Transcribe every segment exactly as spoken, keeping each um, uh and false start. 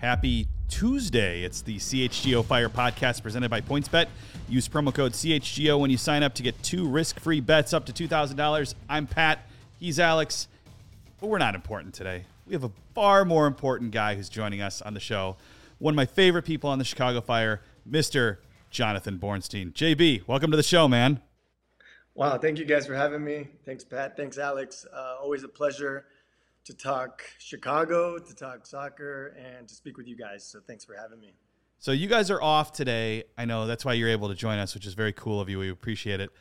Happy Tuesday. It's the C H G O Fire podcast presented by PointsBet. Use promo code C H G O when you sign up to get two risk-free bets up to two thousand dollars. I'm Pat. He's Alex. But we're not important today. We have a far more important guy who's joining us on the show. One of my favorite people on the Chicago Fire, Mister Jonathan Bornstein. J B, welcome to the show, man. Wow, thank you guys for having me. Thanks, Pat. Thanks, Alex. Uh, always a pleasure to talk Chicago, to talk soccer, and to speak with you guys. So thanks for having me. So you guys are off today. I know that's why you're able to join us, which is very cool of you. We appreciate it.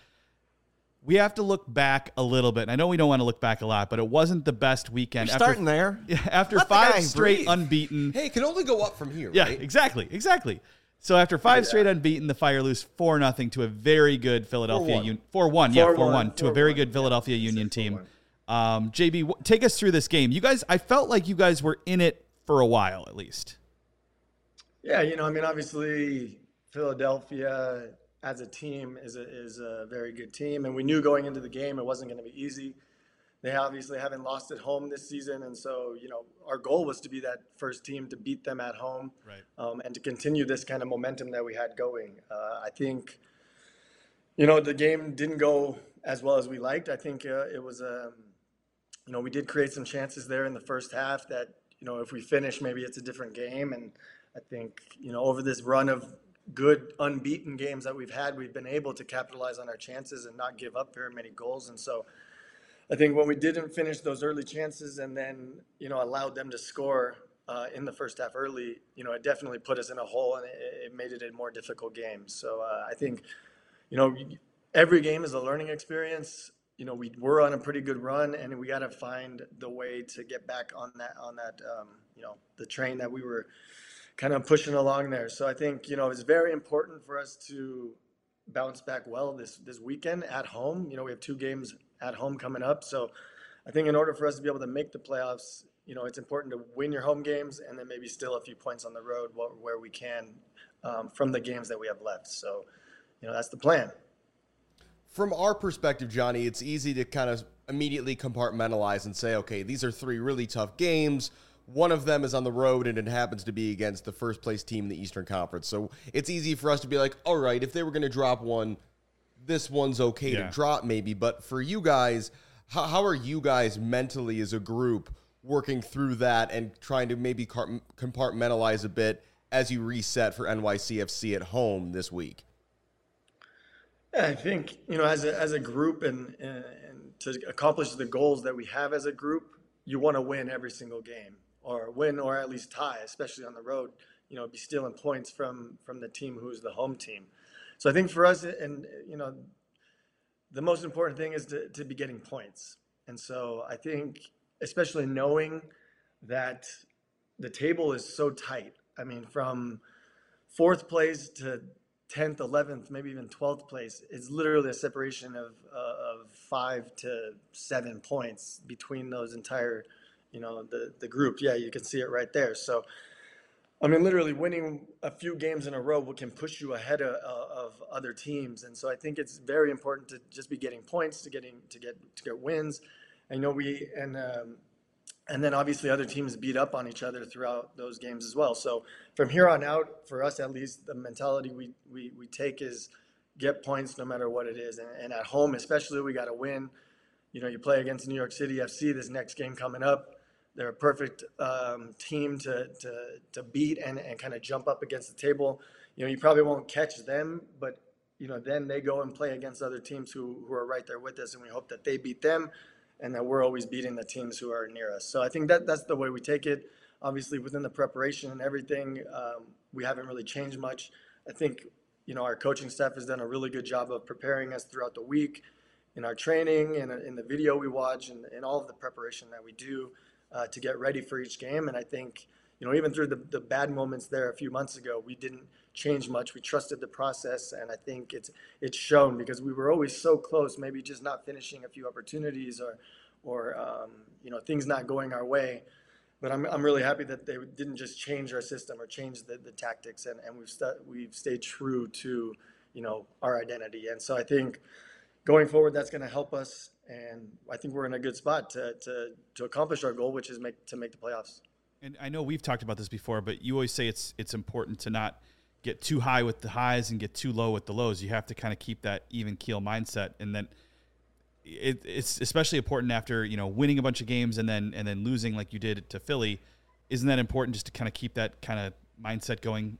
We have to look back a little bit. And I know we don't want to look back a lot, but it wasn't the best weekend. You're after, starting there. After Let five straight breathe. unbeaten. Hey, it can only go up from here, Yeah, right? exactly, exactly. So after five Yeah. straight unbeaten, the Fire lose four nothing to a very good Philadelphia four one. Union. four one, yeah, four four one one, to a very good yeah. Philadelphia Say Union four team. one. Um, J B, w- take us through this game. You guys, I felt like you guys were in it for a while at least. Yeah, you know, I mean, obviously, Philadelphia as a team is a, is a very good team. And we knew going into the game it wasn't going to be easy. They obviously haven't lost at home this season. And so, you know, our goal was to be that first team to beat them at home, Right. um, and to continue this kind of momentum that we had going. Uh, I think, you know, the game didn't go as well as we liked. I think uh, it was, um, you know, we did create some chances there in the first half that, you know, if we finish, maybe it's a different game. And I think, you know, over this run of good unbeaten games that we've had, we've been able to capitalize on our chances and not give up very many goals. And so I think when we didn't finish those early chances and then, you know, allowed them to score uh, in the first half early, you know, it definitely put us in a hole, and it, it made it a more difficult game. So uh, I think, you know, every game is a learning experience. You know, we were on a pretty good run, and we got to find the way to get back on that, on that, um, you know, the train that we were kind of pushing along there. So I think, you know, it's very important for us to bounce back well this, this weekend at home. You know, we have two games at home coming up. So I think in order for us to be able to make the playoffs, you know, it's important to win your home games and then maybe steal a few points on the road where, where we can um, from the games that we have left. So, you know, that's the plan. From our perspective, Johnny, it's easy to kind of immediately compartmentalize and say, okay, these are three really tough games. One of them is on the road, and it happens to be against the first-place team in the Eastern Conference. So it's easy for us to be like, all right, if they were going to drop one, this one's okay Yeah. to drop maybe. But for you guys, how, how are you guys mentally as a group working through that and trying to maybe car- compartmentalize a bit as you reset for N Y C F C at home this week? Yeah, I think, you know, as a, as a group and, and to accomplish the goals that we have as a group, you want to win every single game, or win or at least tie, especially on the road, you know, be stealing points from, from the team who's the home team. So I think for us, and, you know, the most important thing is to, to be getting points. And so I think, especially knowing that the table is so tight, I mean, from fourth place to tenth, eleventh, maybe even twelfth place, it's literally a separation of, uh, of five to seven points between those entire, you know, the, the group. Yeah, you can see it right there. So, I mean, literally winning a few games in a row can push you ahead of, of other teams. And so I think it's very important to just be getting points, to getting, to get, to get wins. I know we, and, um, and then obviously other teams beat up on each other throughout those games as well. So from here on out, for us at least, the mentality we, we, we take is get points no matter what it is. And, and at home especially, we got to win. You know, you play against New York City F C this next game coming up. They're a perfect um, team to, to to beat and, and kind of jump up against the table. You know, you probably won't catch them, but, you know, then they go and play against other teams who, who are right there with us, and we hope that they beat them and that we're always beating the teams who are near us. So I think that that's the way we take it. Obviously, within the preparation and everything, um, we haven't really changed much. I think, you know, our coaching staff has done a really good job of preparing us throughout the week in our training and in the video we watch and in all of the preparation that we do uh, to get ready for each game. And I think, you know, even through the, the bad moments there a few months ago, we didn't change much. We trusted the process, and I think it's it's shown because we were always so close, maybe just not finishing a few opportunities or, or um, you know, things not going our way. But I'm I'm really happy that they didn't just change our system or change the, the tactics, and, and we've st- we've stayed true to, you know, our identity. And so I think going forward, that's going to help us, and I think we're in a good spot to to to accomplish our goal, which is make to make the playoffs. And I know we've talked about this before, but you always say it's it's important to not get too high with the highs and get too low with the lows. You have to kind of keep that even keel mindset, and then it, it's especially important after, you know, winning a bunch of games and then and then losing like you did to Philly. Isn't that important just to kind of keep that kind of mindset going?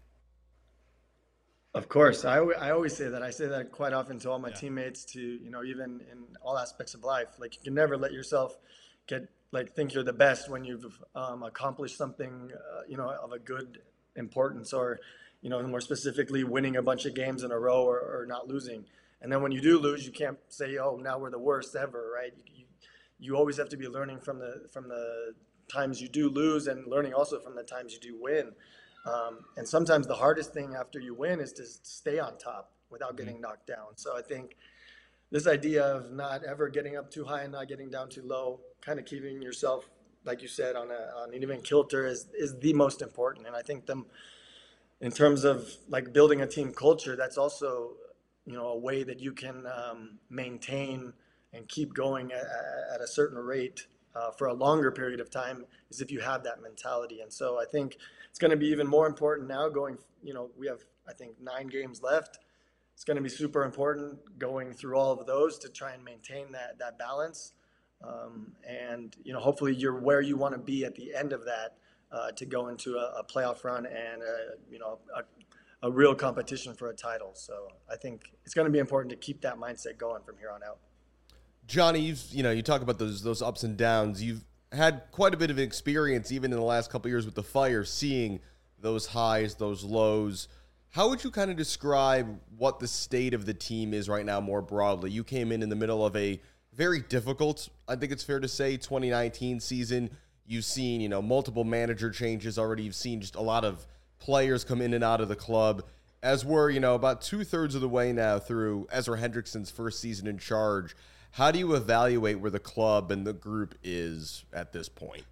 Of course. I, I always say that. I say that quite often to all my Yeah. teammates, to, you know, even in all aspects of life. Like, you can never let yourself get, like, think you're the best when you've um, accomplished something, uh, you know, of a good importance, or, you know, more specifically, winning a bunch of games in a row, or, or not losing. And then when you do lose, you can't say, oh, now we're the worst ever, right? You, you, you always have to be learning from the from the times you do lose, and learning also from the times you do win. Um, and sometimes the hardest thing after you win is to stay on top without getting knocked down. So I think this idea of not ever getting up too high and not getting down too low, kind of keeping yourself, like you said, on, a, on an even kilter is, is the most important. And I think them, in terms of like building a team culture, that's also, you know, a way that you can um, maintain and keep going at, at a certain rate uh, for a longer period of time, is if you have that mentality. And so I think it's going to be even more important now going, you know, we have, I think, nine games left. It's going to be super important going through all of those to try and maintain that, that balance. Um, and, you know, hopefully you're where you want to be at the end of that uh, to go into a, a playoff run and, a, you know, a, a real competition for a title. So I think it's going to be important to keep that mindset going from here on out. Johnny, you've, you know, you talk about those those ups and downs. You've had quite a bit of experience, even in the last couple of years with the Fire, seeing those highs, those lows. How would you kind of describe what the state of the team is right now more broadly? You came in in the middle of a very difficult, I think it's fair to say, twenty nineteen season. You've seen, you know, multiple manager changes already. You've seen just a lot of players come in and out of the club. As we're, you know, about two-thirds of the way now through Ezra Hendrickson's first season in charge, how do you evaluate where the club and the group is at this point?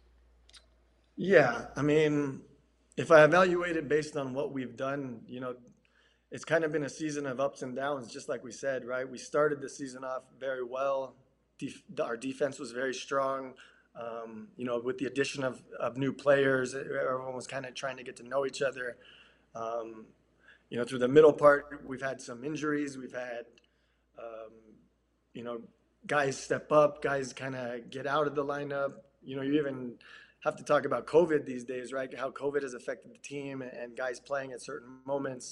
Yeah, I mean, if I evaluate it based on what we've done, you know, it's kind of been a season of ups and downs, just like we said, right? We started the season off very well. Def- our defense was very strong. Um, you know, with the addition of, of new players, everyone was kind of trying to get to know each other. Um, you know, through the middle part, we've had some injuries. We've had, um, you know, guys step up, guys kind of get out of the lineup. You know, you even have to talk about COVID these days, right? How COVID has affected the team and guys playing at certain moments.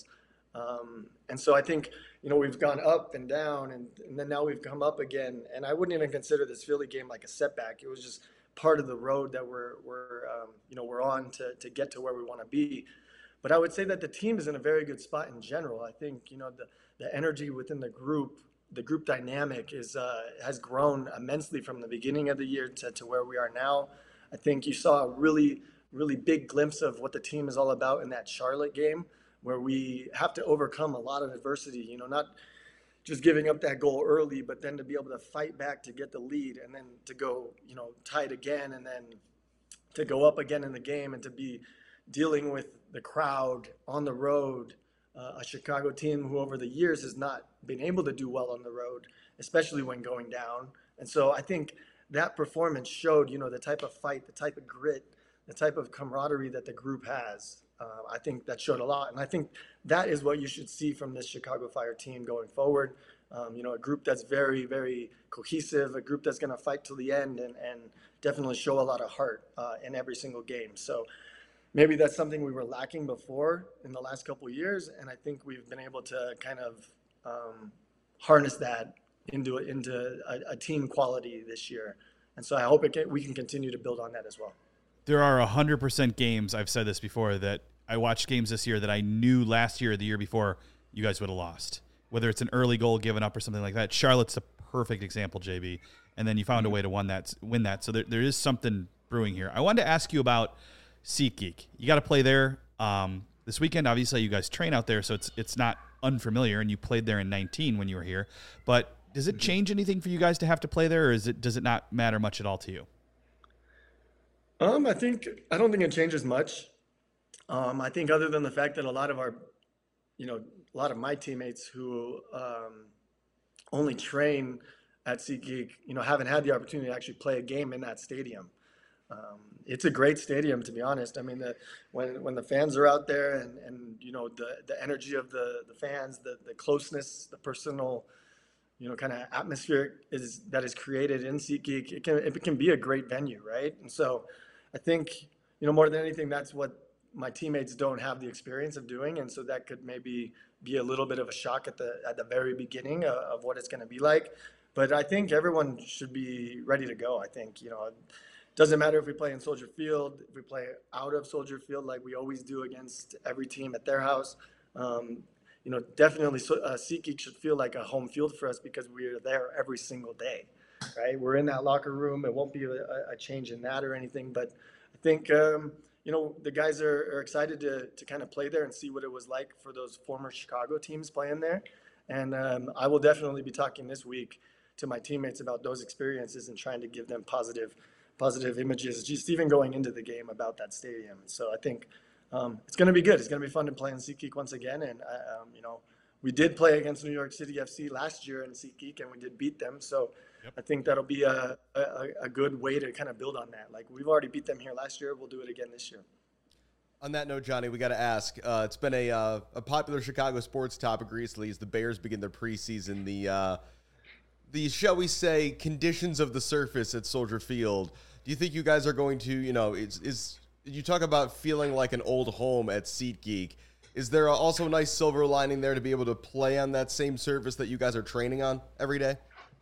Um, and so I think, you know, we've gone up and down, and, and then now we've come up again. And I wouldn't even consider this Philly game like a setback. It was just part of the road that we're, we're um, you know, we're on to, to get to where we want to be. But I would say that the team is in a very good spot in general. I think, you know, the, the energy within the group, the group dynamic is uh, has grown immensely from the beginning of the year to, to where we are now. I think you saw a really, really big glimpse of what the team is all about in that Charlotte game, where we have to overcome a lot of adversity, you know, not just giving up that goal early, but then to be able to fight back to get the lead, and then to go, you know, tied again, and then to go up again in the game, and to be dealing with the crowd on the road, uh, a Chicago team who over the years has not been able to do well on the road, especially when going down. And so I think that performance showed, you know, the type of fight, the type of grit, the type of camaraderie that the group has. Uh, I think that showed a lot. And I think that is what you should see from this Chicago Fire team going forward. Um, you know, a group that's very, very cohesive, a group that's going to fight till the end, and, and definitely show a lot of heart uh, in every single game. So maybe that's something we were lacking before in the last couple of years. And I think we've been able to kind of um, harness that into, into a, a team quality this year. And so I hope it can, we can continue to build on that as well. There are one hundred percent games, I've said this before, that I watched games this year that I knew last year or the year before you guys would have lost. Whether it's an early goal given up or something like that. Charlotte's a perfect example, J B. And then you found a way to win that. Win that. So there, there is something brewing here. I wanted to ask you about SeatGeek. You got to play there um, this weekend. Obviously, you guys train out there, so it's it's not unfamiliar, and you played there in nineteen when you were here. But does it change anything for you guys to have to play there, or is it does it not matter much at all to you? Um, I think I don't think it changes much. Um, I think other than the fact that a lot of our, you know, a lot of my teammates who um, only train at SeatGeek, you know, haven't had the opportunity to actually play a game in that stadium. Um, it's a great stadium, to be honest. I mean, the, when when the fans are out there and, and you know the, the energy of the, the fans, the, the closeness, the personal, you know, kind of atmosphere is that is created in SeatGeek, it can it can be a great venue, right? And so, I think you know more than anything, that's what my teammates don't have the experience of doing, and so that could maybe be a little bit of a shock at the at the very beginning of, of what it's going to be like. But I think everyone should be ready to go. I think you know. Doesn't matter if we play in Soldier Field, if we play out of Soldier Field like we always do against every team at their house. Um, you know, definitely uh, SeatGeek should feel like a home field for us because we're there every single day, right? We're in that locker room. It won't be a, a change in that or anything. But I think, um, you know, the guys are, are excited to, to kind of play there and see what it was like for those former Chicago teams playing there. And um, I will definitely be talking this week to my teammates about those experiences and trying to give them positive positive images, just even going into the game about that stadium. So I think um, it's going to be good. It's going to be fun to play in SeatGeek once again. And, uh, um, you know, we did play against New York City F C last year in SeatGeek, and we did beat them. So yep. I think that'll be a, a, a good way to kind of build on that. Like, we've already beat them here last year. We'll do it again this year. On that note, Johnny, we got to ask. Uh, it's been a uh, a popular Chicago sports topic recently as the Bears begin their preseason. The, uh, the, shall we say, conditions of the surface at Soldier Field. Do you think you guys are going to, you know, is, is you talk about feeling like an old home at SeatGeek. Is there also a nice silver lining there to be able to play on that same surface that you guys are training on every day?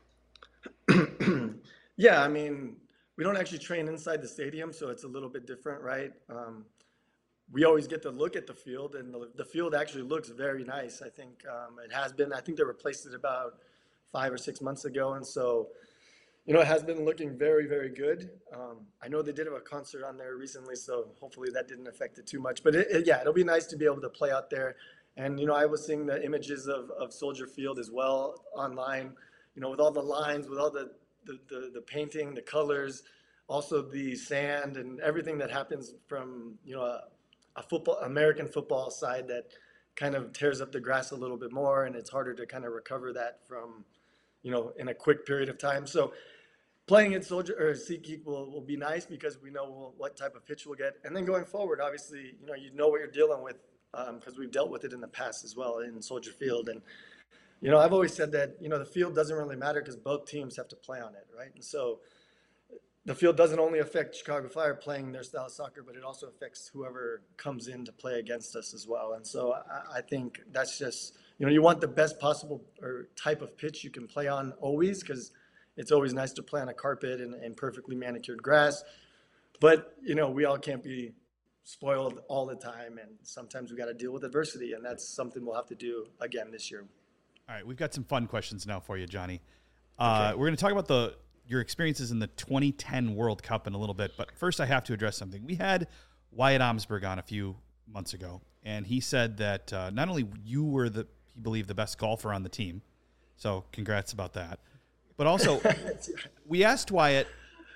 Yeah, I mean, we don't actually train inside the stadium, so it's a little bit different, right? Um, we always get to look at the field, and the, the field actually looks very nice. I think um, it has been. I think they replaced it about five or six months ago, and so you know, it has been looking very, very good. Um, I know they did have a concert on there recently, so hopefully that didn't affect it too much. But it, it, yeah, it'll be nice to be able to play out there. And, you know, I was seeing the images of, of Soldier Field as well online, you know, with all the lines, with all the, the, the, the painting, the colors, also the sand and everything that happens from, you know, a, a football, American football side that kind of tears up the grass a little bit more. And it's harder to kind of recover that from, you know, in a quick period of time. So playing at Soldier or SeatGeek will, will be nice because we know we'll, what type of pitch we'll get. And then going forward, obviously, you know, you know what you're dealing with because um, we've dealt with it in the past as well in Soldier Field. And, you know, I've always said that, you know, the field doesn't really matter because both teams have to play on it, right? And so the field doesn't only affect Chicago Fire playing their style of soccer, but it also affects whoever comes in to play against us as well. And so I, I think that's just, you know, you want the best possible or type of pitch you can play on always because it's always nice to play on a carpet and, and perfectly manicured grass. But, you know, we all can't be spoiled all the time. And sometimes we got to deal with adversity. And that's something we'll have to do again this year. All right. We've got some fun questions now for you, Johnny. Uh, okay. We're going to talk about the your experiences in the twenty ten World Cup in a little bit. But first, I have to address something. We had Wyatt Omsberg on a few months ago. And he said that uh, not only you were the, he believed, the best golfer on the team. So congrats about that. But also, we asked Wyatt,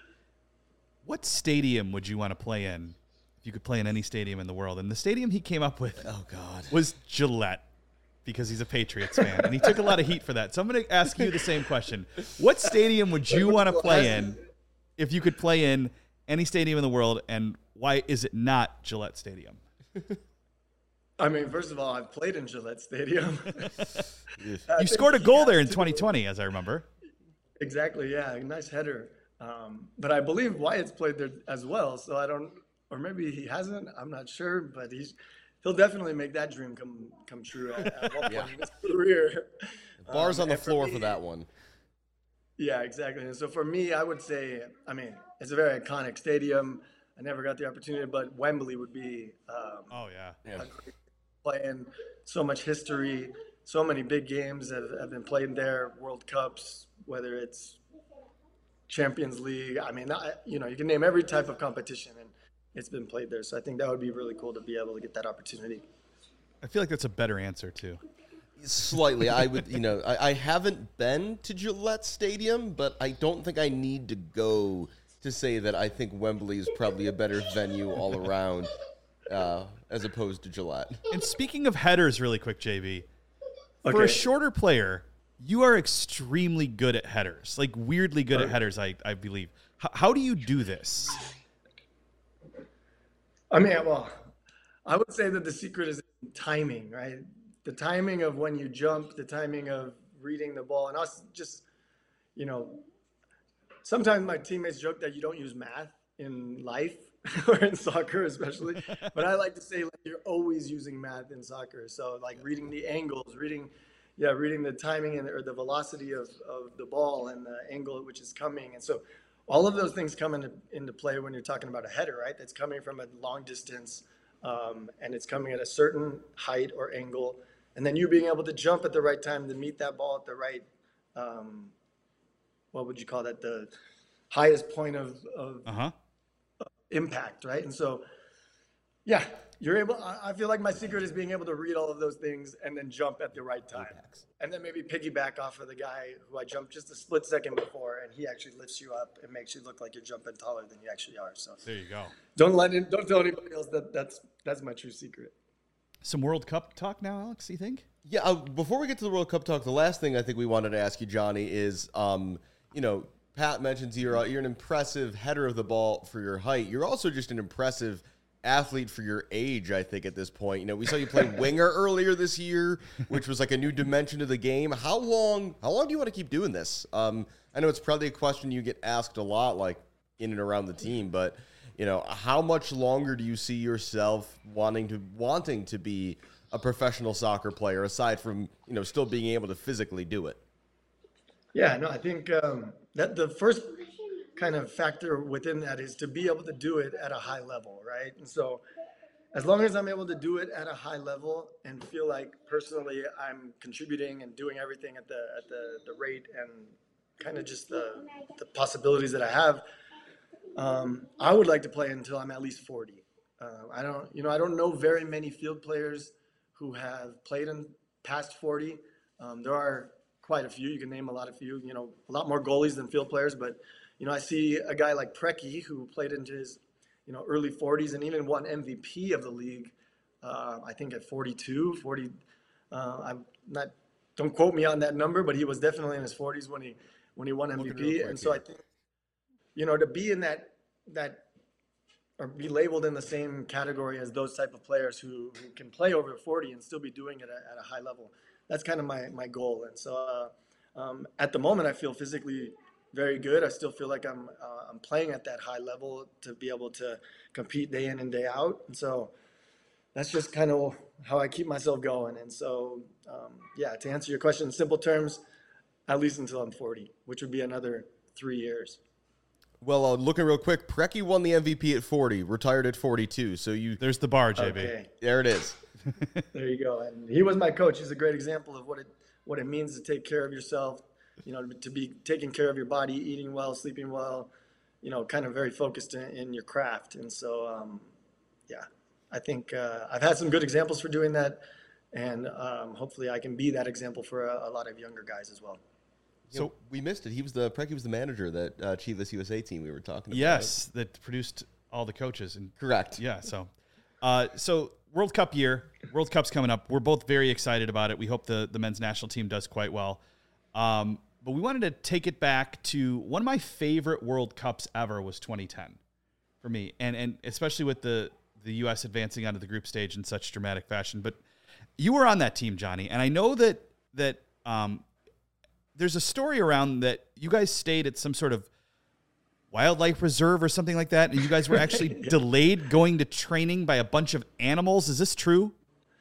what stadium would you want to play in if you could play in any stadium in the world? And the stadium he came up with oh God. was Gillette because he's a Patriots fan. And he took a lot of heat for that. So I'm going to ask you the same question. What stadium would you want to play in if you could play in any stadium in the world? And why is it not Gillette Stadium? I mean, first of all, I've played in Gillette Stadium. You scored a goal there in twenty twenty, as I remember. Exactly, yeah, nice header. Um, but I believe Wyatt's played there as well, so I don't, or maybe he hasn't. I'm not sure, but he's he'll definitely make that dream come come true at, at one point yeah. in his career. Bars um, on the floor for, me, for that one. Yeah, exactly. And so for me, I would say, I mean, it's a very iconic stadium. I never got the opportunity, but Wembley would be. Um, oh yeah, yeah. Playing so much history. So many big games have, have been played there, World Cups, whether it's Champions League. I mean, I, you know, you can name every type of competition, and it's been played there. So I think that would be really cool to be able to get that opportunity. I feel like that's a better answer, too. Slightly. I would, you know, I, I haven't been to Gillette Stadium, but I don't think I need to go to say that I think Wembley is probably a better venue all around uh, as opposed to Gillette. And speaking of headers really quick, J B, okay. For a shorter player, you are extremely good at headers, like weirdly good at headers, I, I believe. H- how do you do this? I mean, well, I would say that the secret is timing, right? The timing of when you jump, the timing of reading the ball, and us just, you know, sometimes my teammates joke that you don't use math in life or in soccer especially, but I like to say like you're always using math in soccer. So like reading the angles, reading, yeah, reading the timing and or the velocity of, of the ball and the angle at which it's coming. And so all of those things come into, into play when you're talking about a header, right? That's coming from a long distance, um, and it's coming at a certain height or angle. And then you being able to jump at the right time to meet that ball at the right, um, what would you call that? The highest point of, of Uh-huh. impact, right? And so, yeah, you're able. I feel like my secret is being able to read all of those things and then jump at the right time, and then maybe piggyback off of the guy who I jumped just a split second before, and he actually lifts you up and makes you look like you're jumping taller than you actually are. So There you go. don't let it, don't tell anybody else that that's that's my true secret. Some World Cup talk now, Alex, you think? Yeah, uh, before we get to the World Cup talk, the last thing I think we wanted to ask you, Johnny, is, um, you know, Pat mentions you're, uh, you're an impressive header of the ball for your height. You're also just an impressive athlete for your age, I think, at this point. You know, we saw you play winger earlier this year, which was like a new dimension to the game. How long How long do you want to keep doing this? Um, I know it's probably a question you get asked a lot, like, in and around the team, but, you know, how much longer do you see yourself wanting to wanting to be a professional soccer player, aside from, you know, still being able to physically do it? Yeah, no, I think um, that the first kind of factor within that is to be able to do it at a high level, right? And so as long as I'm able to do it at a high level and feel like personally I'm contributing and doing everything at the at the, the rate and kind of just the, the possibilities that I have, um, I would like to play until I'm at least forty. Uh, I don't, you know, I don't know very many field players who have played in past forty. Um, there are quite a few. You can name a lot of few. You know, a lot more goalies than field players. But you know, I see a guy like Preki who played into his, you know, early forties and even won M V P of the league. Uh, I think at forty-two, forty. Uh, I'm not. Don't quote me on that number, but he was definitely in his forties when he when he won M V P. And so I think, you know, to be in that that or be labeled in the same category as those type of players who, who can play over forty and still be doing it at, at a high level. That's kind of my, my goal. And so uh, um, at the moment, I feel physically very good. I still feel like I'm uh, I'm playing at that high level to be able to compete day in and day out. And so that's just kind of how I keep myself going. And so, um, yeah, to answer your question in simple terms, at least until I'm forty, which would be another three years. Well, uh, looking real quick, Preki won the M V P at forty, retired at forty-two. So you, There's the bar, J B. Okay. there it is. There you go. And he was my coach. He's a great example of what it what it means to take care of yourself, you know, to be taking care of your body, eating well, sleeping well, you know, kind of very focused in, in your craft. And so, um, yeah, I think uh, I've had some good examples for doing that. And um, hopefully I can be that example for a, a lot of younger guys as well. So you know, we missed it. He was the Preki was the manager of that uh, Chivas U S A team we were talking about. Yes, that produced all the coaches. And correct. Yeah, so uh, so World Cup year, World Cup's coming up. We're both very excited about it. We hope the, the men's national team does quite well. Um, but we wanted to take it back to one of my favorite World Cups ever was twenty ten for me. And and especially with the, the U S advancing onto the group stage in such dramatic fashion. But you were on that team, Johnny, and I know that that um, there's a story around that you guys stayed at some sort of wildlife reserve or something like that, and you guys were actually yeah. delayed going to training by a bunch of animals. Is this true?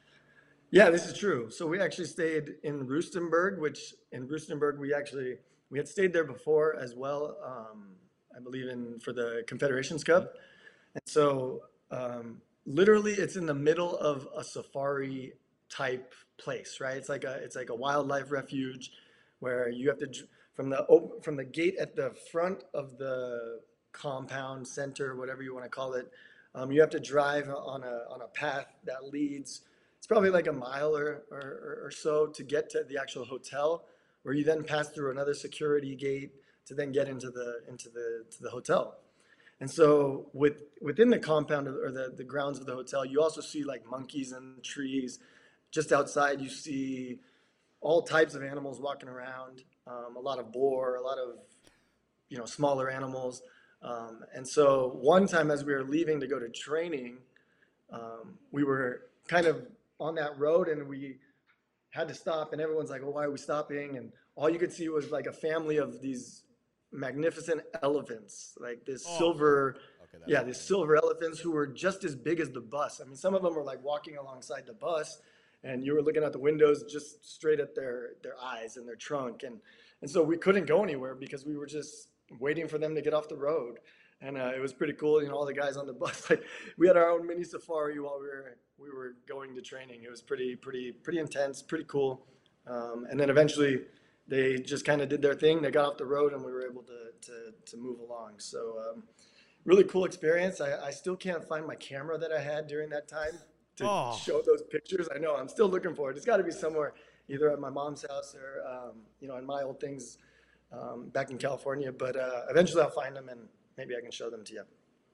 Yeah, this is true. So we actually stayed in Rustenburg, which in Rustenburg we actually we had stayed there before as well. Um, I believe in for the Confederations Cup, and so um, literally it's in the middle of a safari type place, right? It's like a it's like a wildlife refuge where you have to from the from the gate at the front of the compound center, whatever you want to call it. Um, you have to drive on a on a path that leads. It's probably like a mile or, or or so to get to the actual hotel, where you then pass through another security gate to then get into the into the to the hotel. And so with within the compound or the, the grounds of the hotel, you also see like monkeys and trees. Just outside, you see all types of animals walking around, um, a lot of boar, a lot of, you know, smaller animals. Um, and so one time as we were leaving to go to training, um, we were kind of on that road and we had to stop, and everyone's like, well, why are we stopping? And all you could see was like a family of these magnificent elephants, like this Oh. silver, Okay, that's yeah, these silver elephants who were just as big as the bus. I mean, some of them were like walking alongside the bus, and you were looking at the windows just straight at their their eyes and their trunk, and and so we couldn't go anywhere because we were just waiting for them to get off the road. And uh, it was pretty cool, you know, all the guys on the bus, like we had our own mini safari while we were we were going to training. It was pretty pretty pretty intense, pretty cool. Um, and then eventually they just kind of did their thing. They got off the road and we were able to to, to move along. So um, really cool experience. I, I still can't find my camera that I had during that time to Oh. show those pictures. I know, I'm still looking for it. It's got to be somewhere, either at my mom's house or, um, you know, in my old things um, back in California. But uh, eventually I'll find them and maybe I can show them to you.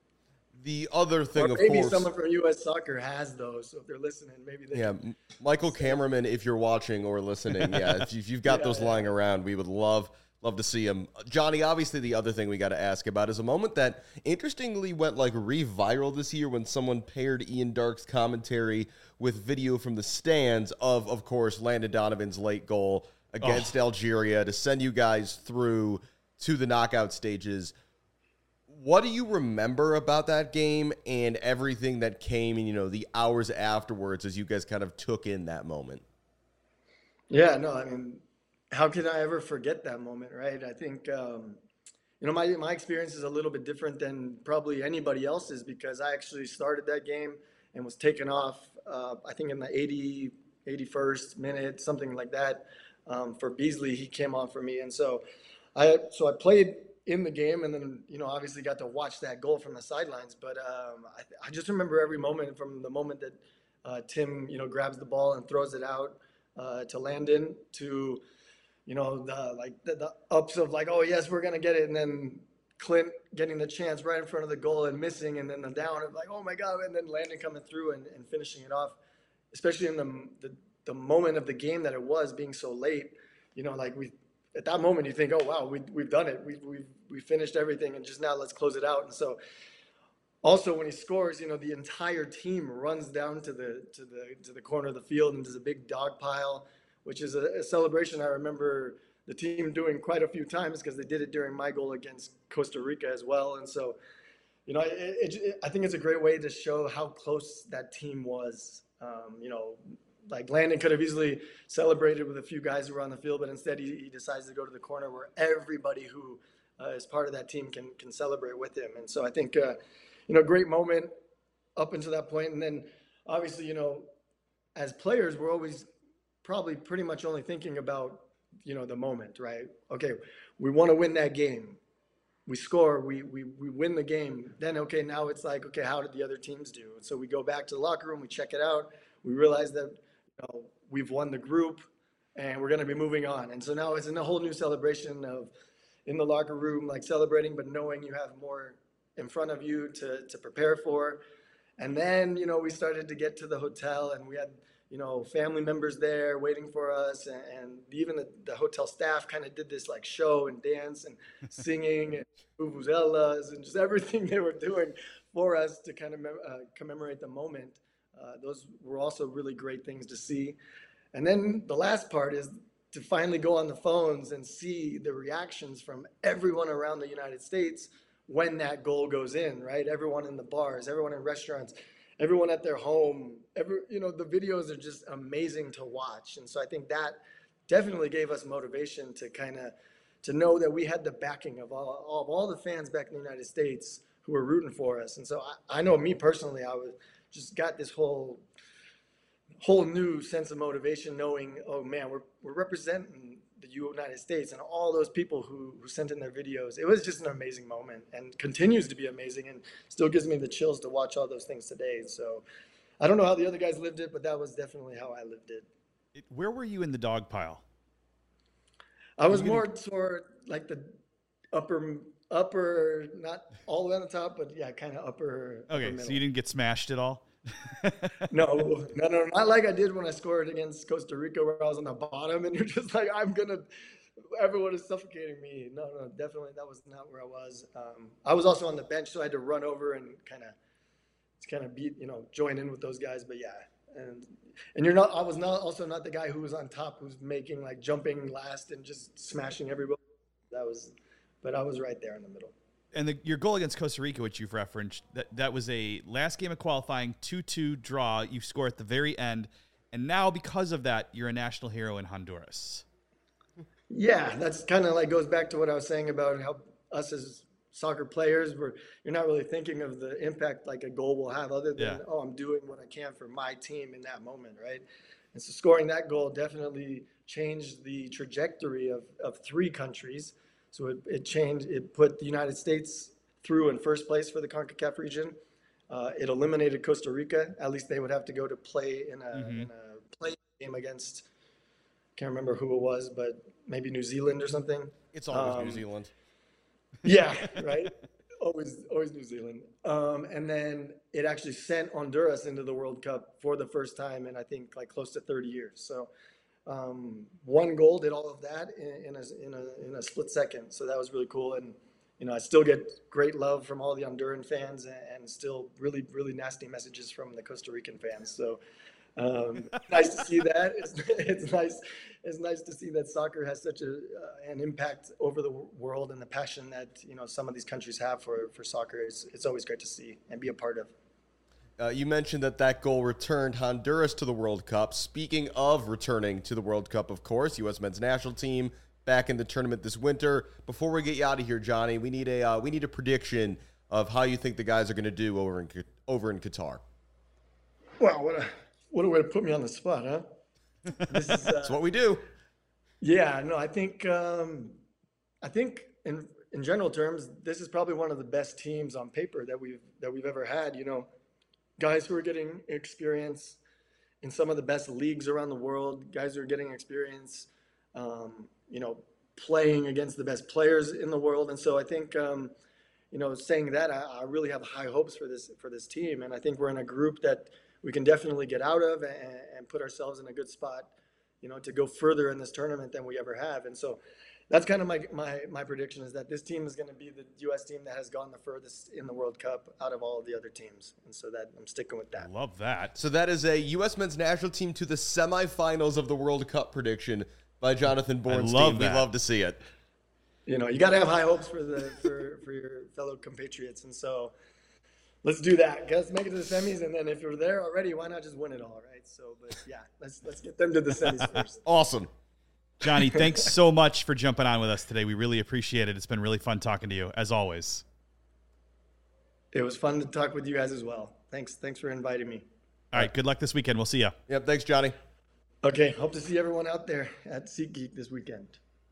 The other thing, Or of maybe course, someone from U S Soccer has those. So if they're listening, maybe they yeah, can. M- Michael Cameraman, if you're watching or listening, yeah, if, you, if you've got Yeah, those yeah. lying around, we would love love to see them. Johnny, obviously, the other thing we got to ask about is a moment that interestingly went like re-viral this year when someone paired Ian Darke's commentary with video from the stands of, of course, Landon Donovan's late goal against Algeria to send you guys through to the knockout stages. What do you remember about that game and everything that came in, you know, the hours afterwards as you guys kind of took in that moment? Yeah, no, I mean, how can I ever forget that moment, right? I think, um, you know, my, my experience is a little bit different than probably anybody else's because I actually started that game and was taken off, uh, I think in the eighty, eighty-first minute, something like that. Um, for Beasley, he came on for me. And so I, so I played in the game and then, you know, obviously got to watch that goal from the sidelines. But um, I, I just remember every moment from the moment that uh, Tim, you know, grabs the ball and throws it out uh, to Landon to, you know, the like the, the ups of like, oh yes, we're gonna get it, and then Clint getting the chance right in front of the goal and missing, and then the down of like, oh my god, and then Landon coming through and, and finishing it off, especially in the, the the moment of the game that it was being so late. You know, like we at that moment you think, oh wow, we we've done it, we we we finished everything, and just now let's close it out. And so also when he scores, you know, the entire team runs down to the to the to the corner of the field and there's a big dog pile, which is a, a celebration I remember the team doing quite a few times because they did it during my goal against Costa Rica as well. And so, you know, it, it, it, I think it's a great way to show how close that team was. Um, you know, like Landon could have easily celebrated with a few guys who were on the field, but instead he, he decides to go to the corner where everybody who uh, is part of that team can can celebrate with him. And so I think, uh, you know, great moment up until that point. And then obviously, you know, as players, we're always probably pretty much only thinking about, you know, the moment, right? Okay, we want to win that game. We score, we, we, we win the game. Then, okay, now it's like, okay, how did the other teams do? And so we go back to the locker room, we check it out. We realize that, you know, we've won the group and we're going to be moving on. And so now it's in a whole new celebration of in the locker room, like celebrating, but knowing you have more in front of you to, to prepare for. And then, you know, we started to get to the hotel and we had, you know, family members there waiting for us. And, and even the, the hotel staff kind of did this like show and dance and singing and vuvuzelas and just everything they were doing for us to kind of uh, commemorate the moment. Uh, those were also really great things to see. And then the last part is to finally go on the phones and see the reactions from everyone around the United States when that goal goes in, right? Everyone in the bars, everyone in restaurants, everyone at their home, every, you know, the videos are just amazing to watch. And so I think that definitely gave us motivation to kind of, to know that we had the backing of all, of all the fans back in the United States who were rooting for us. And so I, I know me personally, I was just got this whole, whole new sense of motivation knowing, oh man, we're, we're representing the United States and all those people who, who sent in their videos. It was just an amazing moment and continues to be amazing and still gives me the chills to watch all those things today. So I don't know how the other guys lived it, but that was definitely how I lived it. It- Where were you in the dog pile? I was you gonna- more toward like the upper, upper, not all the way on the top, but yeah, kind of upper. upper Okay, middle. so you didn't get smashed at all? No, no, no, not like I did when I scored against Costa Rica where I was on the bottom and you're just like, I'm going to, everyone is suffocating me. No, no, definitely that was not where I was. Um, I was also on the bench, so I had to run over and kind of to kind of beat, you know, join in with those guys. But yeah, and and you're not. I was not also not the guy who was on top, who's making like jumping last and just smashing everybody. That was, but I was right there in the middle. And the, your goal against Costa Rica, which you've referenced, that that was a last game of qualifying two two draw. You score at the very end, and now because of that, you're a national hero in Honduras. Yeah, that's kind of like goes back to what I was saying about how us as soccer players, we're you're not really thinking of the impact like a goal will have, other than Yeah. oh, I'm doing what I can for my team in that moment, right? And so scoring that goal definitely changed the trajectory of of three countries. So it, it changed. It put the United States through in first place for the CONCACAF region. Uh, it eliminated Costa Rica. At least they would have to go to play in a, Mhm. in a play game against. Can't remember who it was, but maybe New Zealand or something. It's always Um, New Zealand. Yeah, right. always, always New Zealand. Um, and then it actually sent Honduras into the World Cup for the first time in I think like close to thirty years. So um, one goal did all of that in, in, a, in a in a split second. So that was really cool. And you know, I still get great love from all the Honduran fans, and, and still really, really nasty messages from the Costa Rican fans. So um, nice to see that. It's, it's nice. It's nice to see that soccer has such a uh, an impact over the w- world, and the passion that you know some of these countries have for for soccer. It's it's always great to see and be a part of. Uh, you mentioned that that goal returned Honduras to the World Cup. Speaking of returning to the World Cup, of course, U S men's national team back in the tournament this winter. Before we get you out of here, Johnny, we need a uh, we need a prediction of how you think the guys are going to do over in Q- over in Qatar. Wow, what a what a way to put me on the spot, huh? This is, uh, That's what we do. Yeah, no, I think um, I think in in general terms, this is probably one of the best teams on paper that we've that we've ever had. You know, guys who are getting experience in some of the best leagues around the world, guys who are getting experience, um, you know, playing against the best players in the world. And so I think, um, you know, saying that, I, I really have high hopes for this for this team, and I think we're in a group that we can definitely get out of and, and put ourselves in a good spot, you know, to go further in this tournament than we ever have. And so that's kind of my my, my prediction, is that this team is going to be the U S team that has gone the furthest in the World Cup out of all of the other teams. And so that I'm sticking with that. Love that. So that is a U S men's national team to the semifinals of the World Cup prediction by Jonathan Bornstein. love that. We love to see it. You know, you got to have high hopes for the for, for your fellow compatriots. And so let's do that. Let's make it to the semis, and then if you're there already, why not just win it all, right? So, but yeah, let's let's get them to the semis first. Awesome. Johnny, thanks so much for jumping on with us today. We really appreciate it. It's been really fun talking to you, as always. It was fun to talk with you guys as well. Thanks, thanks for inviting me. All right, good luck this weekend. We'll see you. Yep. Thanks, Johnny. Okay, hope to see everyone out there at SeatGeek this weekend.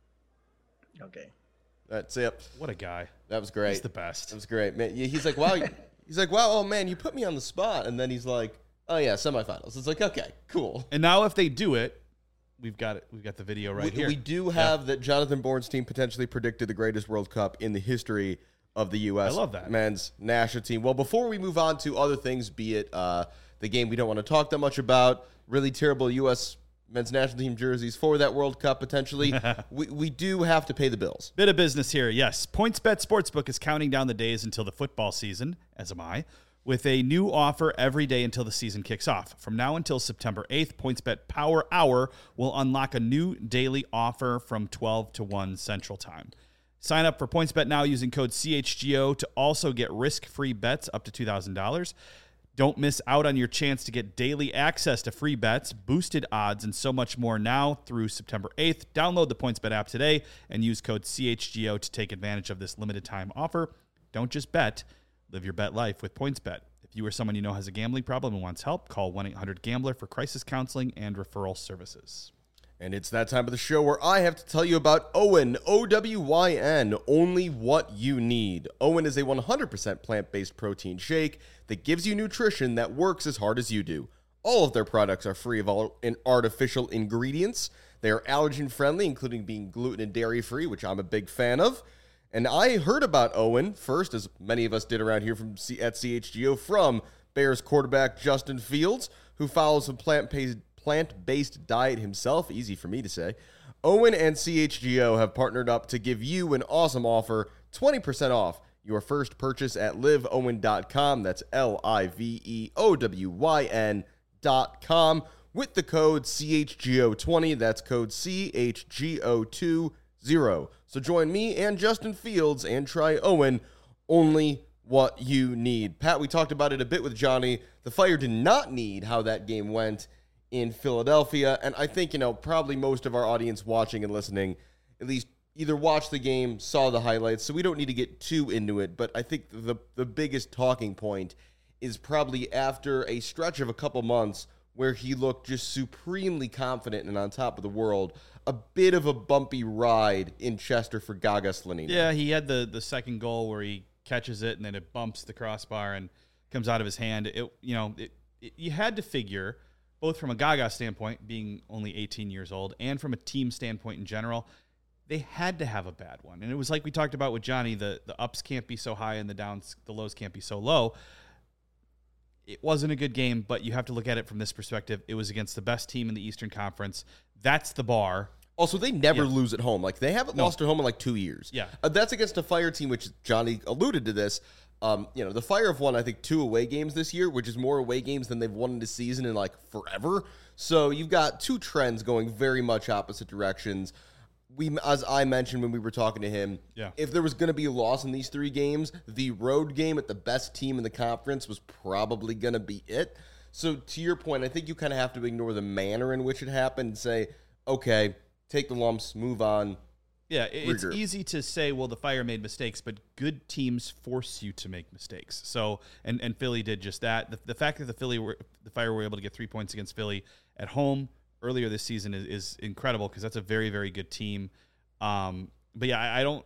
Okay. That's it. What a guy. That was great. He's the best. That was great, man. Yeah, he's like, wow. He's like, wow. Oh man, you put me on the spot, and then he's like, oh yeah, semifinals. It's like, okay, cool. And now if they do it, we've got it. We've got the video right we, here. we do have that Jonathan Bornstein potentially predicted the greatest World Cup in the history of the U S I love that. men's national team. Well, before we move on to other things, be it uh, the game we don't want to talk that much about, really terrible U S men's national team jerseys for that World Cup potentially, we, we do have to pay the bills. Bit of business here, yes. PointsBet Sportsbook is counting down the days until the football season, as am I, with a new offer every day until the season kicks off. From now until September eighth, PointsBet Power Hour will unlock a new daily offer from twelve to one Central Time. Sign up for PointsBet now using code C H G O to also get risk-free bets up to two thousand dollars. Don't miss out on your chance to get daily access to free bets, boosted odds, and so much more now through September eighth. Download the PointsBet app today and use code C H G O to take advantage of this limited time offer. Don't just bet, live your bet life with PointsBet. If you or someone you know has a gambling problem and wants help, call one eight hundred gambler for crisis counseling and referral services. And it's that time of the show where I have to tell you about Owen, O W Y N, only what you need. Owen is a one hundred percent plant-based protein shake that gives you nutrition that works as hard as you do. All of their products are free of all in artificial ingredients. They are allergen-friendly, including being gluten and dairy-free, which I'm a big fan of. And I heard about Owen first, as many of us did around here from C- at C H G O, from Bears quarterback Justin Fields, who follows a plant-based plant-based diet himself, easy for me to say. Owen and C H G O have partnered up to give you an awesome offer, twenty percent off your first purchase at live owen dot com. That's L I V E O W Y N dot com with the code C H G O twenty. That's code C H G O twenty. So join me and Justin Fields and try Owen, only what you need. Pat, we talked about it a bit with Johnny. The Fire did not need how that game went in Philadelphia, and I think, you know, probably most of our audience watching and listening at least either watched the game, saw the highlights, so we don't need to get too into it, but I think the the biggest talking point is probably after a stretch of a couple months where he looked just supremely confident and on top of the world, a bit of a bumpy ride in Chester for Gaga Slonina. Yeah, he had the, the second goal where he catches it and then it bumps the crossbar and comes out of his hand. It, you know, it, it, you had to figure, both from a Gaga standpoint, being only eighteen years old, and from a team standpoint in general, they had to have a bad one. And it was like we talked about with Johnny, the, the ups can't be so high and the downs, the lows can't be so low. It wasn't a good game, but you have to look at it from this perspective. It was against the best team in the Eastern Conference. That's the bar. Also, they never Yeah. lose at home. Like, they haven't No. lost at home in like two years. Yeah. Uh, that's against a Fire team, which Johnny alluded to this. Um, you know, the Fire have won, I think, two away games this year, which is more away games than they've won in the season in like forever. So you've got two trends going very much opposite directions. We, as I mentioned when we were talking to him, Yeah. if there was going to be a loss in these three games, the road game at the best team in the conference was probably going to be it. So to your point, I think you kind of have to ignore the manner in which it happened and say, okay, take the lumps, move on. Yeah, it- it's Regroup. easy to say, well, the Fire made mistakes, but good teams force you to make mistakes. So, and, and Philly did just that. The, the fact that the Philly were, the Fire were able to get three points against Philly at home earlier this season is, is incredible because that's a very, very good team. Um, but yeah, I, I don't,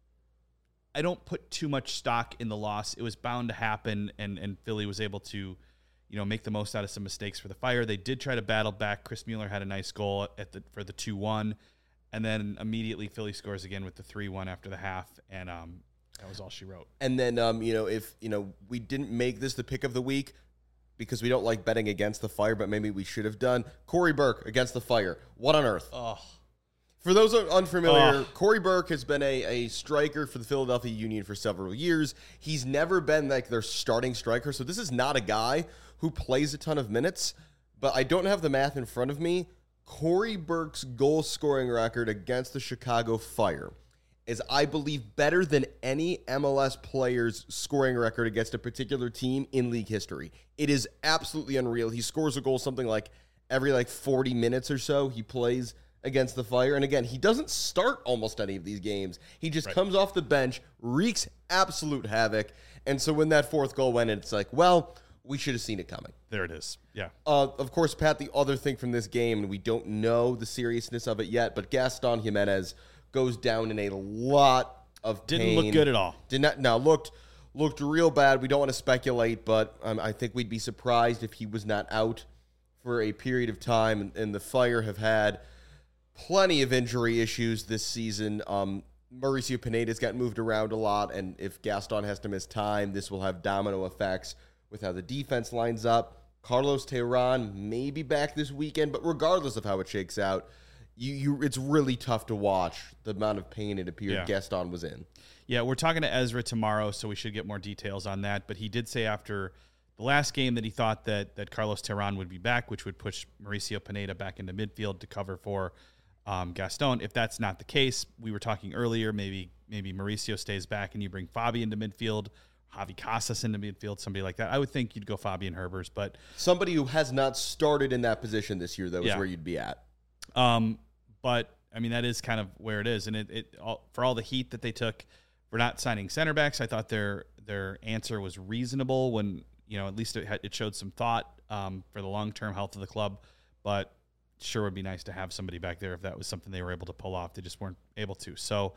I don't put too much stock in the loss. It was bound to happen, and and Philly was able to, you know, make the most out of some mistakes for the Fire. They did try to battle back. Chris Mueller had a nice goal at the for the two one, and then immediately Philly scores again with the three one after the half, and um, that was all she wrote. And then, um, you know, if, you know, we didn't make this the pick of the week because we don't like betting against the Fire, but maybe we should have done. Corey Burke against the Fire. What on earth? Oh, For those who are unfamiliar, Oh. Corey Burke has been a, a striker for the Philadelphia Union for several years. He's never been like their starting striker, so this is not a guy who plays a ton of minutes, but I don't have the math in front of me. Corey Burke's goal-scoring record against the Chicago Fire is, I believe, better than any M L S player's scoring record against a particular team in league history. It is absolutely unreal. He scores a goal something like every like forty minutes or so he plays against the Fire. And again, he doesn't start almost any of these games. He just Right. comes off the bench, wreaks absolute havoc. And so when that fourth goal went in, it's like, well, we should have seen it coming. there it is. Yeah. Uh, of course, Pat, the other thing from this game, and we don't know the seriousness of it yet, but Gaston Jimenez goes down in a lot of Didn't pain. look good at all. Did not. Now looked looked real bad. We don't want to speculate, but um, I think we'd be surprised if he was not out for a period of time. And, and the Fire have had plenty of injury issues this season. Um, Mauricio Pineda's got moved around a lot, and if Gaston has to miss time, this will have domino effects with how the defense lines up. Carlos Tehran may be back this weekend, but regardless of how it shakes out, you, you it's really tough to watch the amount of pain it appeared Yeah. Gaston was in. Yeah, we're talking to Ezra tomorrow, so we should get more details on that. But he did say after the last game that he thought that that Carlos Tehran would be back, which would push Mauricio Pineda back into midfield to cover for um, Gaston. If that's not the case, we were talking earlier, maybe maybe Mauricio stays back and you bring Fabi into midfield, Javi Casas into midfield, somebody like that. I would think you'd go Fabian Herbers, but Somebody who has not started in that position this year, though, is Yeah. where you'd be at. Um, but I mean that is kind of where it is, and it, it all, for all the heat that they took for not signing center backs, I thought their their answer was reasonable. When you know at least it, had, it showed some thought um, for the long term health of the club. But sure would be nice to have somebody back there if that was something they were able to pull off. They just weren't able to. So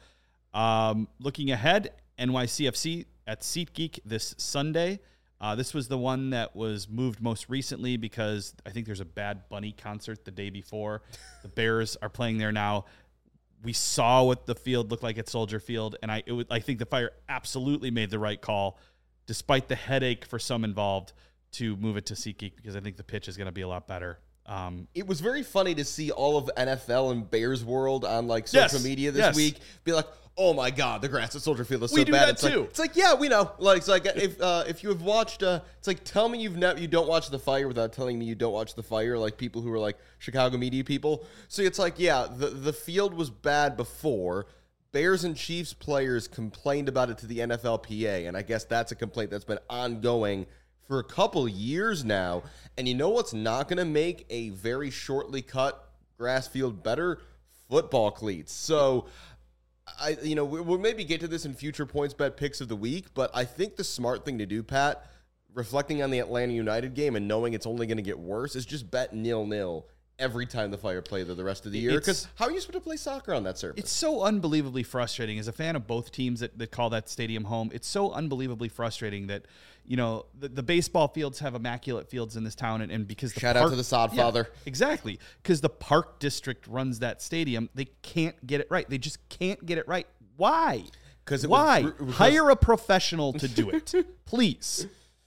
um, looking ahead, N Y C F C at SeatGeek this Sunday. Uh, this was the one that was moved most recently because I think there's a Bad Bunny concert the day before. The Bears are playing there now. We saw what the field looked like at Soldier Field, and I it would, I think the Fire absolutely made the right call, despite the headache for some involved, to move it to SeatGeek because I think the pitch is going to be a lot better Um, it was very funny to see all of N F L and Bears world on like social Yes, media this yes. week be like, "Oh my God, the grass at Soldier Field is so We do bad." that it's too. Like, it's like, yeah, we know. Like, it's like if uh, if you have watched, uh, it's like tell me you've never you don't watch The Fire without telling me you don't watch The Fire. Like people who are like Chicago media people. So it's like, yeah, the the field was bad before. Bears and Chiefs players complained about it to the N F L P A, and I guess that's a complaint that's been ongoing for a couple years now. And you know what's not going to make a very shortly cut grass field better? Football cleats. So, I you know, we'll maybe get to this in future points bet picks of the week, but I think the smart thing to do, Pat, reflecting on the Atlanta United game and knowing it's only going to get worse, is just bet nil-nil every time the Fire play there the rest of the year. Because how are you supposed to play soccer on that surface? It's so unbelievably frustrating. As a fan of both teams that, that call that stadium home, it's so unbelievably frustrating that, you know, the, the baseball fields have immaculate fields in this town, and, and because the Shout park, out to the sod yeah, father. Exactly. Because the park district runs that stadium, they can't get it right. They just can't get it right. Why? Because Why? Was, because Hire a professional to do it, please.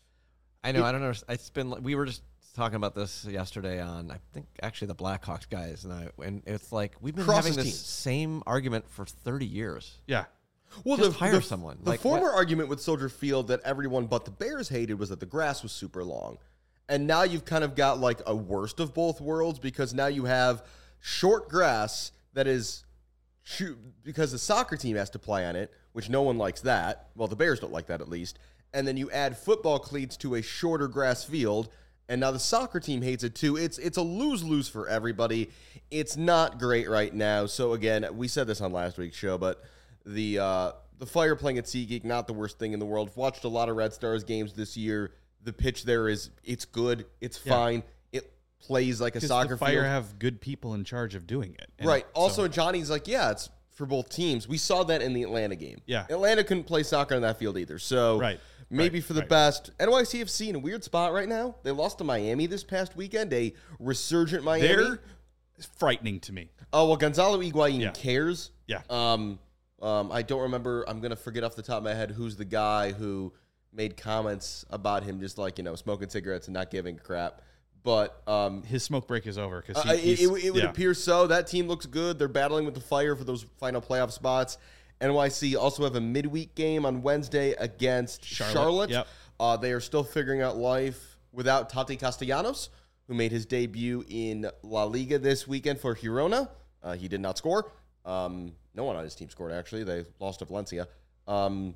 I know. I don't know. It's been. We were just talking about this yesterday on, I think, actually the Blackhawks guys, and I, and it's like we've been Cross having this teams. same argument for thirty years. Yeah. Well, Just the, hire the, someone. The Like, former what- argument with Soldier Field that everyone but the Bears hated was that the grass was super long. And now you've kind of got like a worst of both worlds, because now you have short grass that is shoot because the soccer team has to play on it, which no one likes that. Well, the Bears don't like that, at least. And then you add football cleats to a shorter grass field, and now the soccer team hates it too. It's it's a lose-lose for everybody. It's not great right now. So again, we said this on last week's show, but the uh, the Fire playing at SeaGeek, not the worst thing in the world. Watched a lot of Red Stars games this year. The pitch there is it's good. It's Yeah. fine. It plays like a Because soccer the Fire field. have good people in charge of doing it. And Right. Also, so- Johnny's like, yeah, it's for both teams. We saw that in the Atlanta game. Yeah. Atlanta couldn't play soccer on that field either. So Right. maybe Right. for the Right. best. N Y C F C in a weird spot right now. They lost to Miami this past weekend, a resurgent Miami. they're frightening to me. Oh, well, Gonzalo Higuain Yeah. cares. Yeah. Um, um, I don't remember. I'm going to forget off the top of my head who's the guy who made comments about him just like, you know, smoking cigarettes and not giving a crap. But um, His smoke break is over because uh, it, it, it would appear so. That team looks good. They're battling with the Fire for those final playoff spots. N Y C also have a midweek game on Wednesday against Charlotte. Charlotte. Yep. Uh, they are still figuring out life without Tati Castellanos, who made his debut in La Liga this weekend for Girona. Uh, he did not score. Um, no one on his team scored, actually. They lost to Valencia. Um,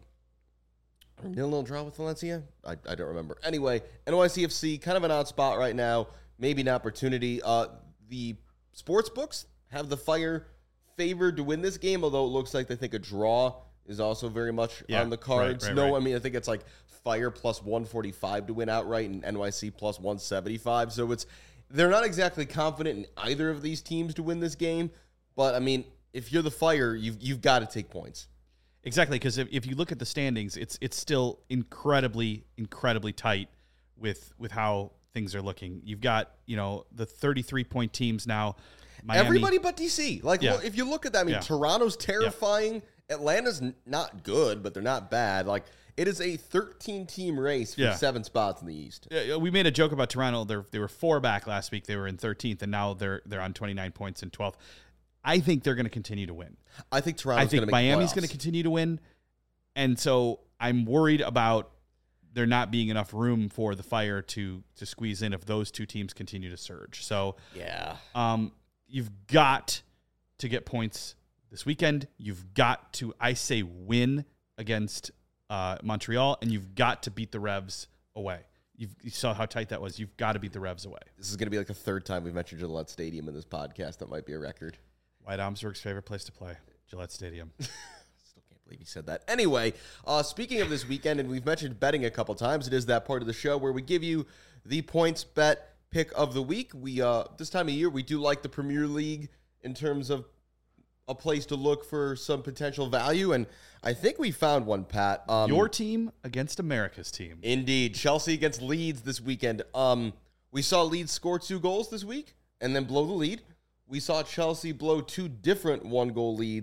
nil-nil draw with Valencia? I, I don't remember. Anyway, N Y C F C, kind of an odd spot right now. Maybe an opportunity. Uh, the sports books have the Fire favored to win this game, although it looks like they think a draw is also very much Yeah, on the cards. right, right, no, right. I mean, I think it's like Fire plus one forty-five to win outright and N Y C plus one seventy-five. So it's they're not exactly confident in either of these teams to win this game. But, I mean, if you're the Fire, you've, you've got to take points. Exactly, because if, if you look at the standings, it's it's still incredibly, incredibly tight with with how things are looking. You've got, you know, the thirty-three point teams now. Miami, Everybody but D C. Like, Yeah. well, if you look at that, I mean, Yeah. Toronto's terrifying. Atlanta's n- not good, but they're not bad. Like, it is a thirteen-team race for Yeah. seven spots in the East. Yeah, we made a joke about Toronto. They're, they were four back last week. They were in thirteenth, and now they're they're on twenty-nine points in twelfth. I think they're going to continue to win. I think I Toronto's think going to make Miami's playoffs. going to continue to win. And so I'm worried about there not being enough room for the Fire to to squeeze in if those two teams continue to surge. So Yeah. um, you've got to get points this weekend. You've got to, I say, win against uh, Montreal, and you've got to beat the Revs away. You've, you saw how tight that was. You've got to beat the Revs away. This is going to be like the third time we've mentioned Gillette Stadium in this podcast. That might be a record. White Omsburg's favorite place to play, Gillette Stadium. Still can't believe he said that. Anyway, uh, speaking of this weekend, and we've mentioned betting a couple times, it is that part of the show where we give you the points bet pick of the week. We uh, this time of year, we do like the Premier League in terms of a place to look for some potential value, and I think we found one, Pat. Um, Your team against America's team. Indeed. Chelsea against Leeds this weekend. Um, we saw Leeds score two goals this week and then blow the lead. We saw Chelsea blow two different one-goal leads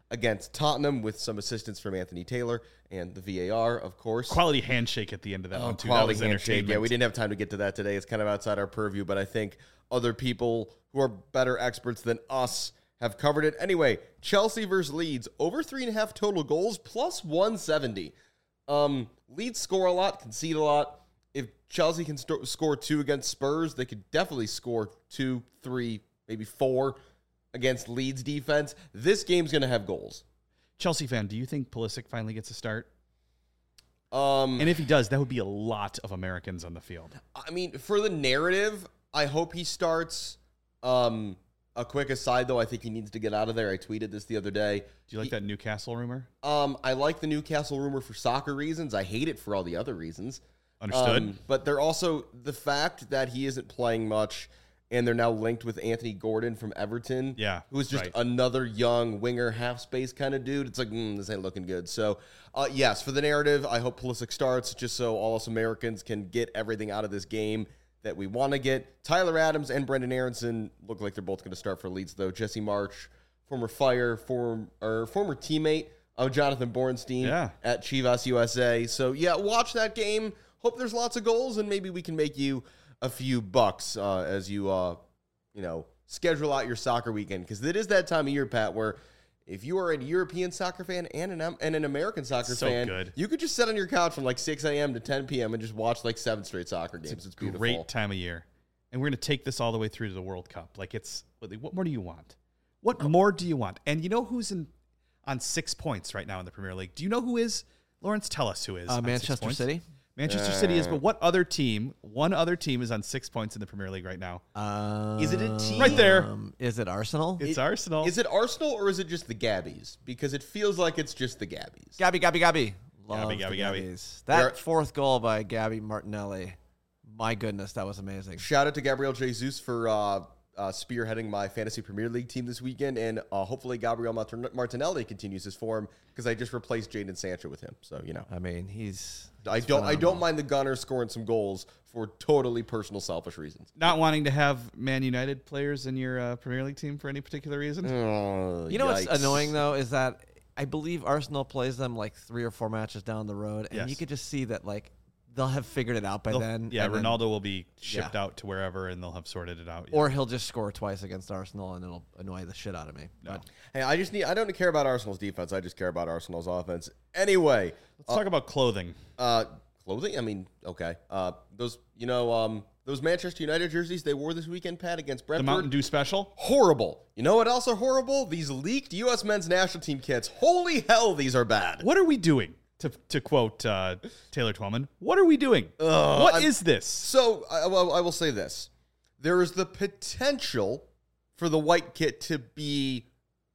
against Tottenham with some assistance from Anthony Taylor and the V A R, of course. Quality handshake at the end of that Oh, one, too. quality That was handshake. entertainment. Yeah, we didn't have time to get to that today. It's kind of outside our purview, but I think other people who are better experts than us have covered it. Anyway, Chelsea versus Leeds, over three and a half total goals, plus one seventy. Um, Leeds score a lot, concede a lot. If Chelsea can st- score two against Spurs, they could definitely score two, three, maybe four against Leeds defense. This game's going to have goals. Chelsea fan, do you think Pulisic finally gets a start? Um, And if he does, that would be a lot of Americans on the field. I mean, for the narrative, I hope he starts. Um, a quick aside, though, I think he needs to get out of there. I tweeted this the other day. Do you like He- that Newcastle rumor? Um, I like the Newcastle rumor for soccer reasons. I hate it for all the other reasons. Understood. Um, but they're also the fact that he isn't playing much, and they're now linked with Anthony Gordon from Everton. Yeah, who is just right. another young winger, half space kind of dude. It's like mm, this ain't looking good. So, uh, yes, for the narrative, I hope Pulisic starts just so all us Americans can get everything out of this game that we want to get. Tyler Adams and Brendan Aronson look like they're both going to start for Leeds, though. Jesse March, former Fire, form, or former teammate of Jonathan Bornstein Yeah. at Chivas U S A. So, yeah, watch that game. Hope there's lots of goals, and maybe we can make you a few bucks uh, as you, uh, you know, schedule out your soccer weekend. Because it is that time of year, Pat, where if you are a European soccer fan and an, and an American soccer So fan, good. you could just sit on your couch from like six a.m. to ten p.m. and just watch like seven straight soccer games. It's, beautiful. Great time of year. And we're going to take this all the way through to the World Cup. Like, it's, what more do you want? What more do you want? And you know who's in on six points right now in the Premier League? Do you know who is? Lawrence, tell us who is. Uh, on six Manchester points. City. Manchester City is, but what other team, one other team is on six points in the Premier League right now? Um, Is it a team? Right there. Is it Arsenal? It's It- Arsenal. Is it Arsenal or is it just the Gabbies? Because it feels like it's just the Gabbies. Gabby, Gabby, Gabby. Love Gabby, the Gabby, Gabby. Gabbies. That They're- fourth goal by Gabby Martinelli. My goodness, that was amazing. Shout out to Gabriel Jesus for uh, uh, spearheading my fantasy Premier League team this weekend, and uh, hopefully Gabriel Martin- Martinelli continues his form because I just replaced Jadon Sancho with him. So you know, I mean, he's. I he's don't I phenomenal. don't mind the Gunners scoring some goals for totally personal, selfish reasons. Not wanting to have Man United players in your uh, Premier League team for any particular reason? Oh, You know what's yikes. annoying though is that I believe Arsenal plays them like three or four matches down the road, and Yes. you could just see that like they'll have figured it out by They'll- then. yeah, and then- Ronaldo will be shipped Yeah. out to wherever, and they'll have sorted it out. Yeah. or he'll just score twice against Arsenal, and it'll annoy the shit out of me. No. But Hey, I just need. I don't care about Arsenal's defense. I just care about Arsenal's offense. Anyway, Let's talk about clothing. uh, clothing. I mean, okay. Uh, those you know, um, those Manchester United jerseys they wore this weekend, Pat, against The Brentford. Mountain Dew special. Horrible. You know what else are horrible? These leaked U S men's national team kits. Holy hell, these are bad. What are we doing? To, to quote uh, Taylor Twellman, what are we doing? What is I'm- this? So I, well, I will say this: there is the potential for the white kit to be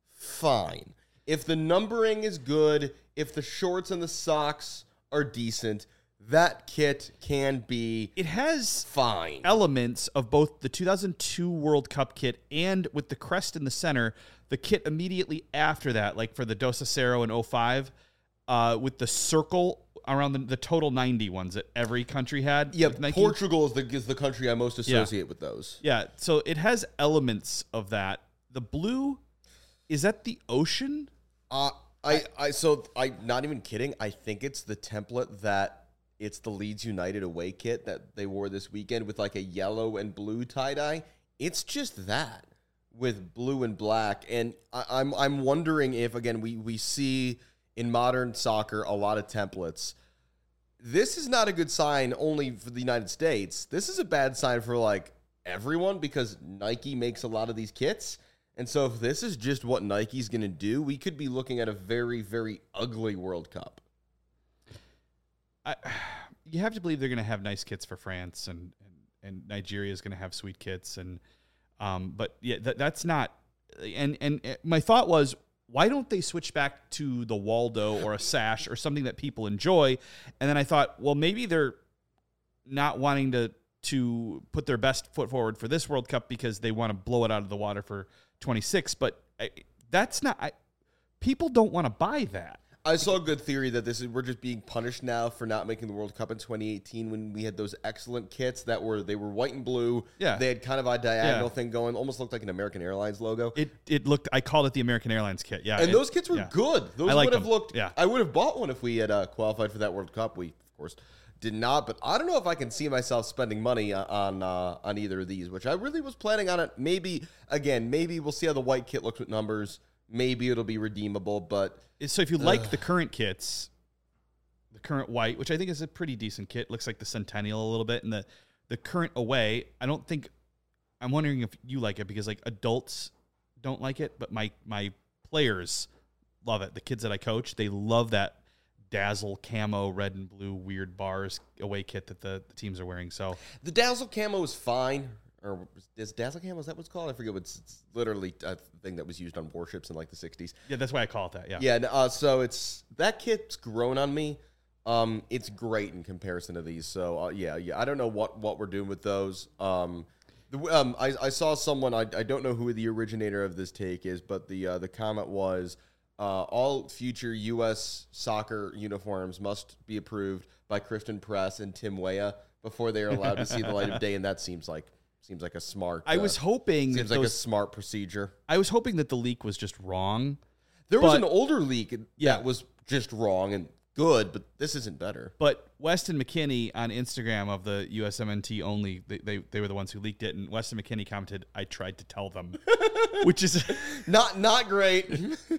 fine if the numbering is good, if the shorts and the socks are decent. That kit can be It has fine. elements of both the two thousand two World Cup kit and with the crest in the center, the kit immediately after that, like for the Dos Acero in oh five, uh, with the circle around the, the total ninety ones that every country had. Yeah, with Nike. Portugal is the is the country I most associate with those. Yeah, so it has elements of that. The blue, is that the ocean? Uh, I, I, so I, not even kidding. I think it's the template that it's the Leeds United away kit that they wore this weekend with like a yellow and blue tie dye. It's just that with blue and black, and I, I'm, I'm wondering if again we we see in modern soccer a lot of templates. This is not a good sign only for the United States. This is a bad sign for like everyone because Nike makes a lot of these kits. And so if this is just what Nike's going to do, we could be looking at a very, very ugly World Cup. I, you have to believe they're going to have nice kits for France, and and, and Nigeria is going to have sweet kits, and um, but yeah, that, that's not. And and uh, my thought was, why don't they switch back to the Waldo or a sash or something that people enjoy? And then I thought, well, maybe they're not wanting to to put their best foot forward for this World Cup because they want to blow it out of the water for twenty-six. But I, that's not. I, people don't want to buy that. I saw a good theory that this is we're just being punished now for not making the World Cup in twenty eighteen when we had those excellent kits that were they were white and blue. Yeah. They had kind of a diagonal Yeah. thing going, almost looked like an American Airlines logo. It it looked. I called it the American Airlines kit. Yeah, and it- those kits were yeah. good. Those I would liked have them. looked. Yeah. I would have bought one if we had uh, qualified for that World Cup. We of course did not, but I don't know if I can see myself spending money on uh, on either of these, which I really was planning on it. Maybe again, maybe we'll see how the white kit looks with numbers. Maybe it'll be redeemable, but So if you like the current kits, the current white, which I think is a pretty decent kit, looks like the Centennial a little bit, and the the current away, I don't think. I'm wondering if you like it because like adults don't like it, but my my players love it. The kids that I coach, they love that Dazzle camo red and blue weird bars away kit that the, the teams are wearing. So the Dazzle camo is fine. Or is Dazzle camo, is that what's called? I forget. What's it's literally a thing that was used on warships in like the sixties. yeah, that's why I call it that. Yeah, Yeah, and, uh, so it's that kit's grown on me. Um, it's great in comparison to these. So uh, yeah, yeah. I don't know what, what we're doing with those. Um, the, um, I, I saw someone. I, I don't know who the originator of this take is, but the uh, the comment was uh, all future U S soccer uniforms must be approved by Christian Press and Tim Weah before they are allowed to see the light of day, and that seems like seems like a smart. I uh, was hoping that seems like a those, smart procedure. I was hoping that the leak was just wrong. There was But- an older leak Yeah. that was just wrong and good, but this isn't better. But Weston McKinney on Instagram of the U S M N T only, they, they, they were the ones who leaked it. And Weston McKinney commented, I tried to tell them, which is, Not not great.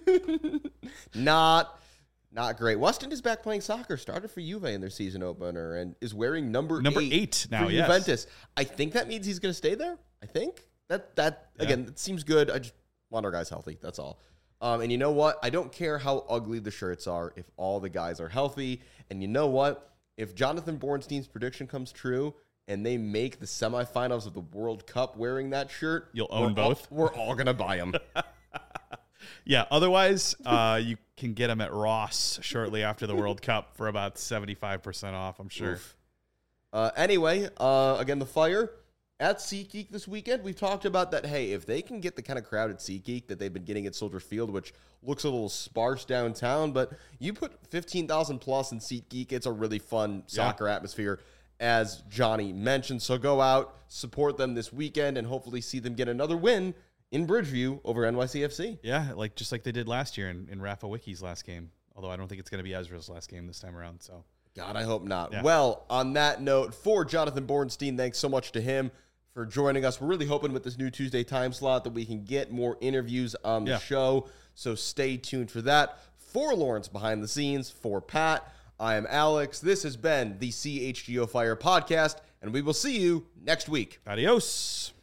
not not great. Weston is back playing soccer, started for Juve in their season opener, and is wearing number, Number eight, eight now, for yes. Juventus. I think that means he's going to stay there. I think. That, that Yeah. again, that seems good. I just want our guys healthy. That's all. Um, and you know what? I don't care how ugly the shirts are if all the guys are healthy. And you know what? If Jonathan Bornstein's prediction comes true and they make the semifinals of the World Cup wearing that shirt, You'll own we're all- both? we're all going to buy them. yeah. Otherwise, uh, you can get them at Ross shortly after the World Cup for about seventy-five percent off, I'm sure. Oof. Uh, anyway, uh, again, the Fire at SeatGeek this weekend. We've talked about that, hey, if they can get the kind of crowd at SeatGeek that they've been getting at Soldier Field, which looks a little sparse downtown, but you put fifteen thousand plus in SeatGeek, it's a really fun soccer atmosphere, as Johnny mentioned. So go out, support them this weekend, and hopefully see them get another win in Bridgeview over N Y C F C. Yeah, like just like they did last year in, in Rafa Wiki's last game. Although I don't think it's going to be Ezra's last game this time around. So God, I hope not. Yeah. Well, on that note, for Jonathan Bornstein, thanks so much to him for joining us. We're really hoping with this new Tuesday time slot that we can get more interviews on the Yeah. show. So stay tuned for that. For Lawrence behind the scenes, for Pat, I am Alex. This has been the C H G O Fire podcast, and we will see you next week. adios.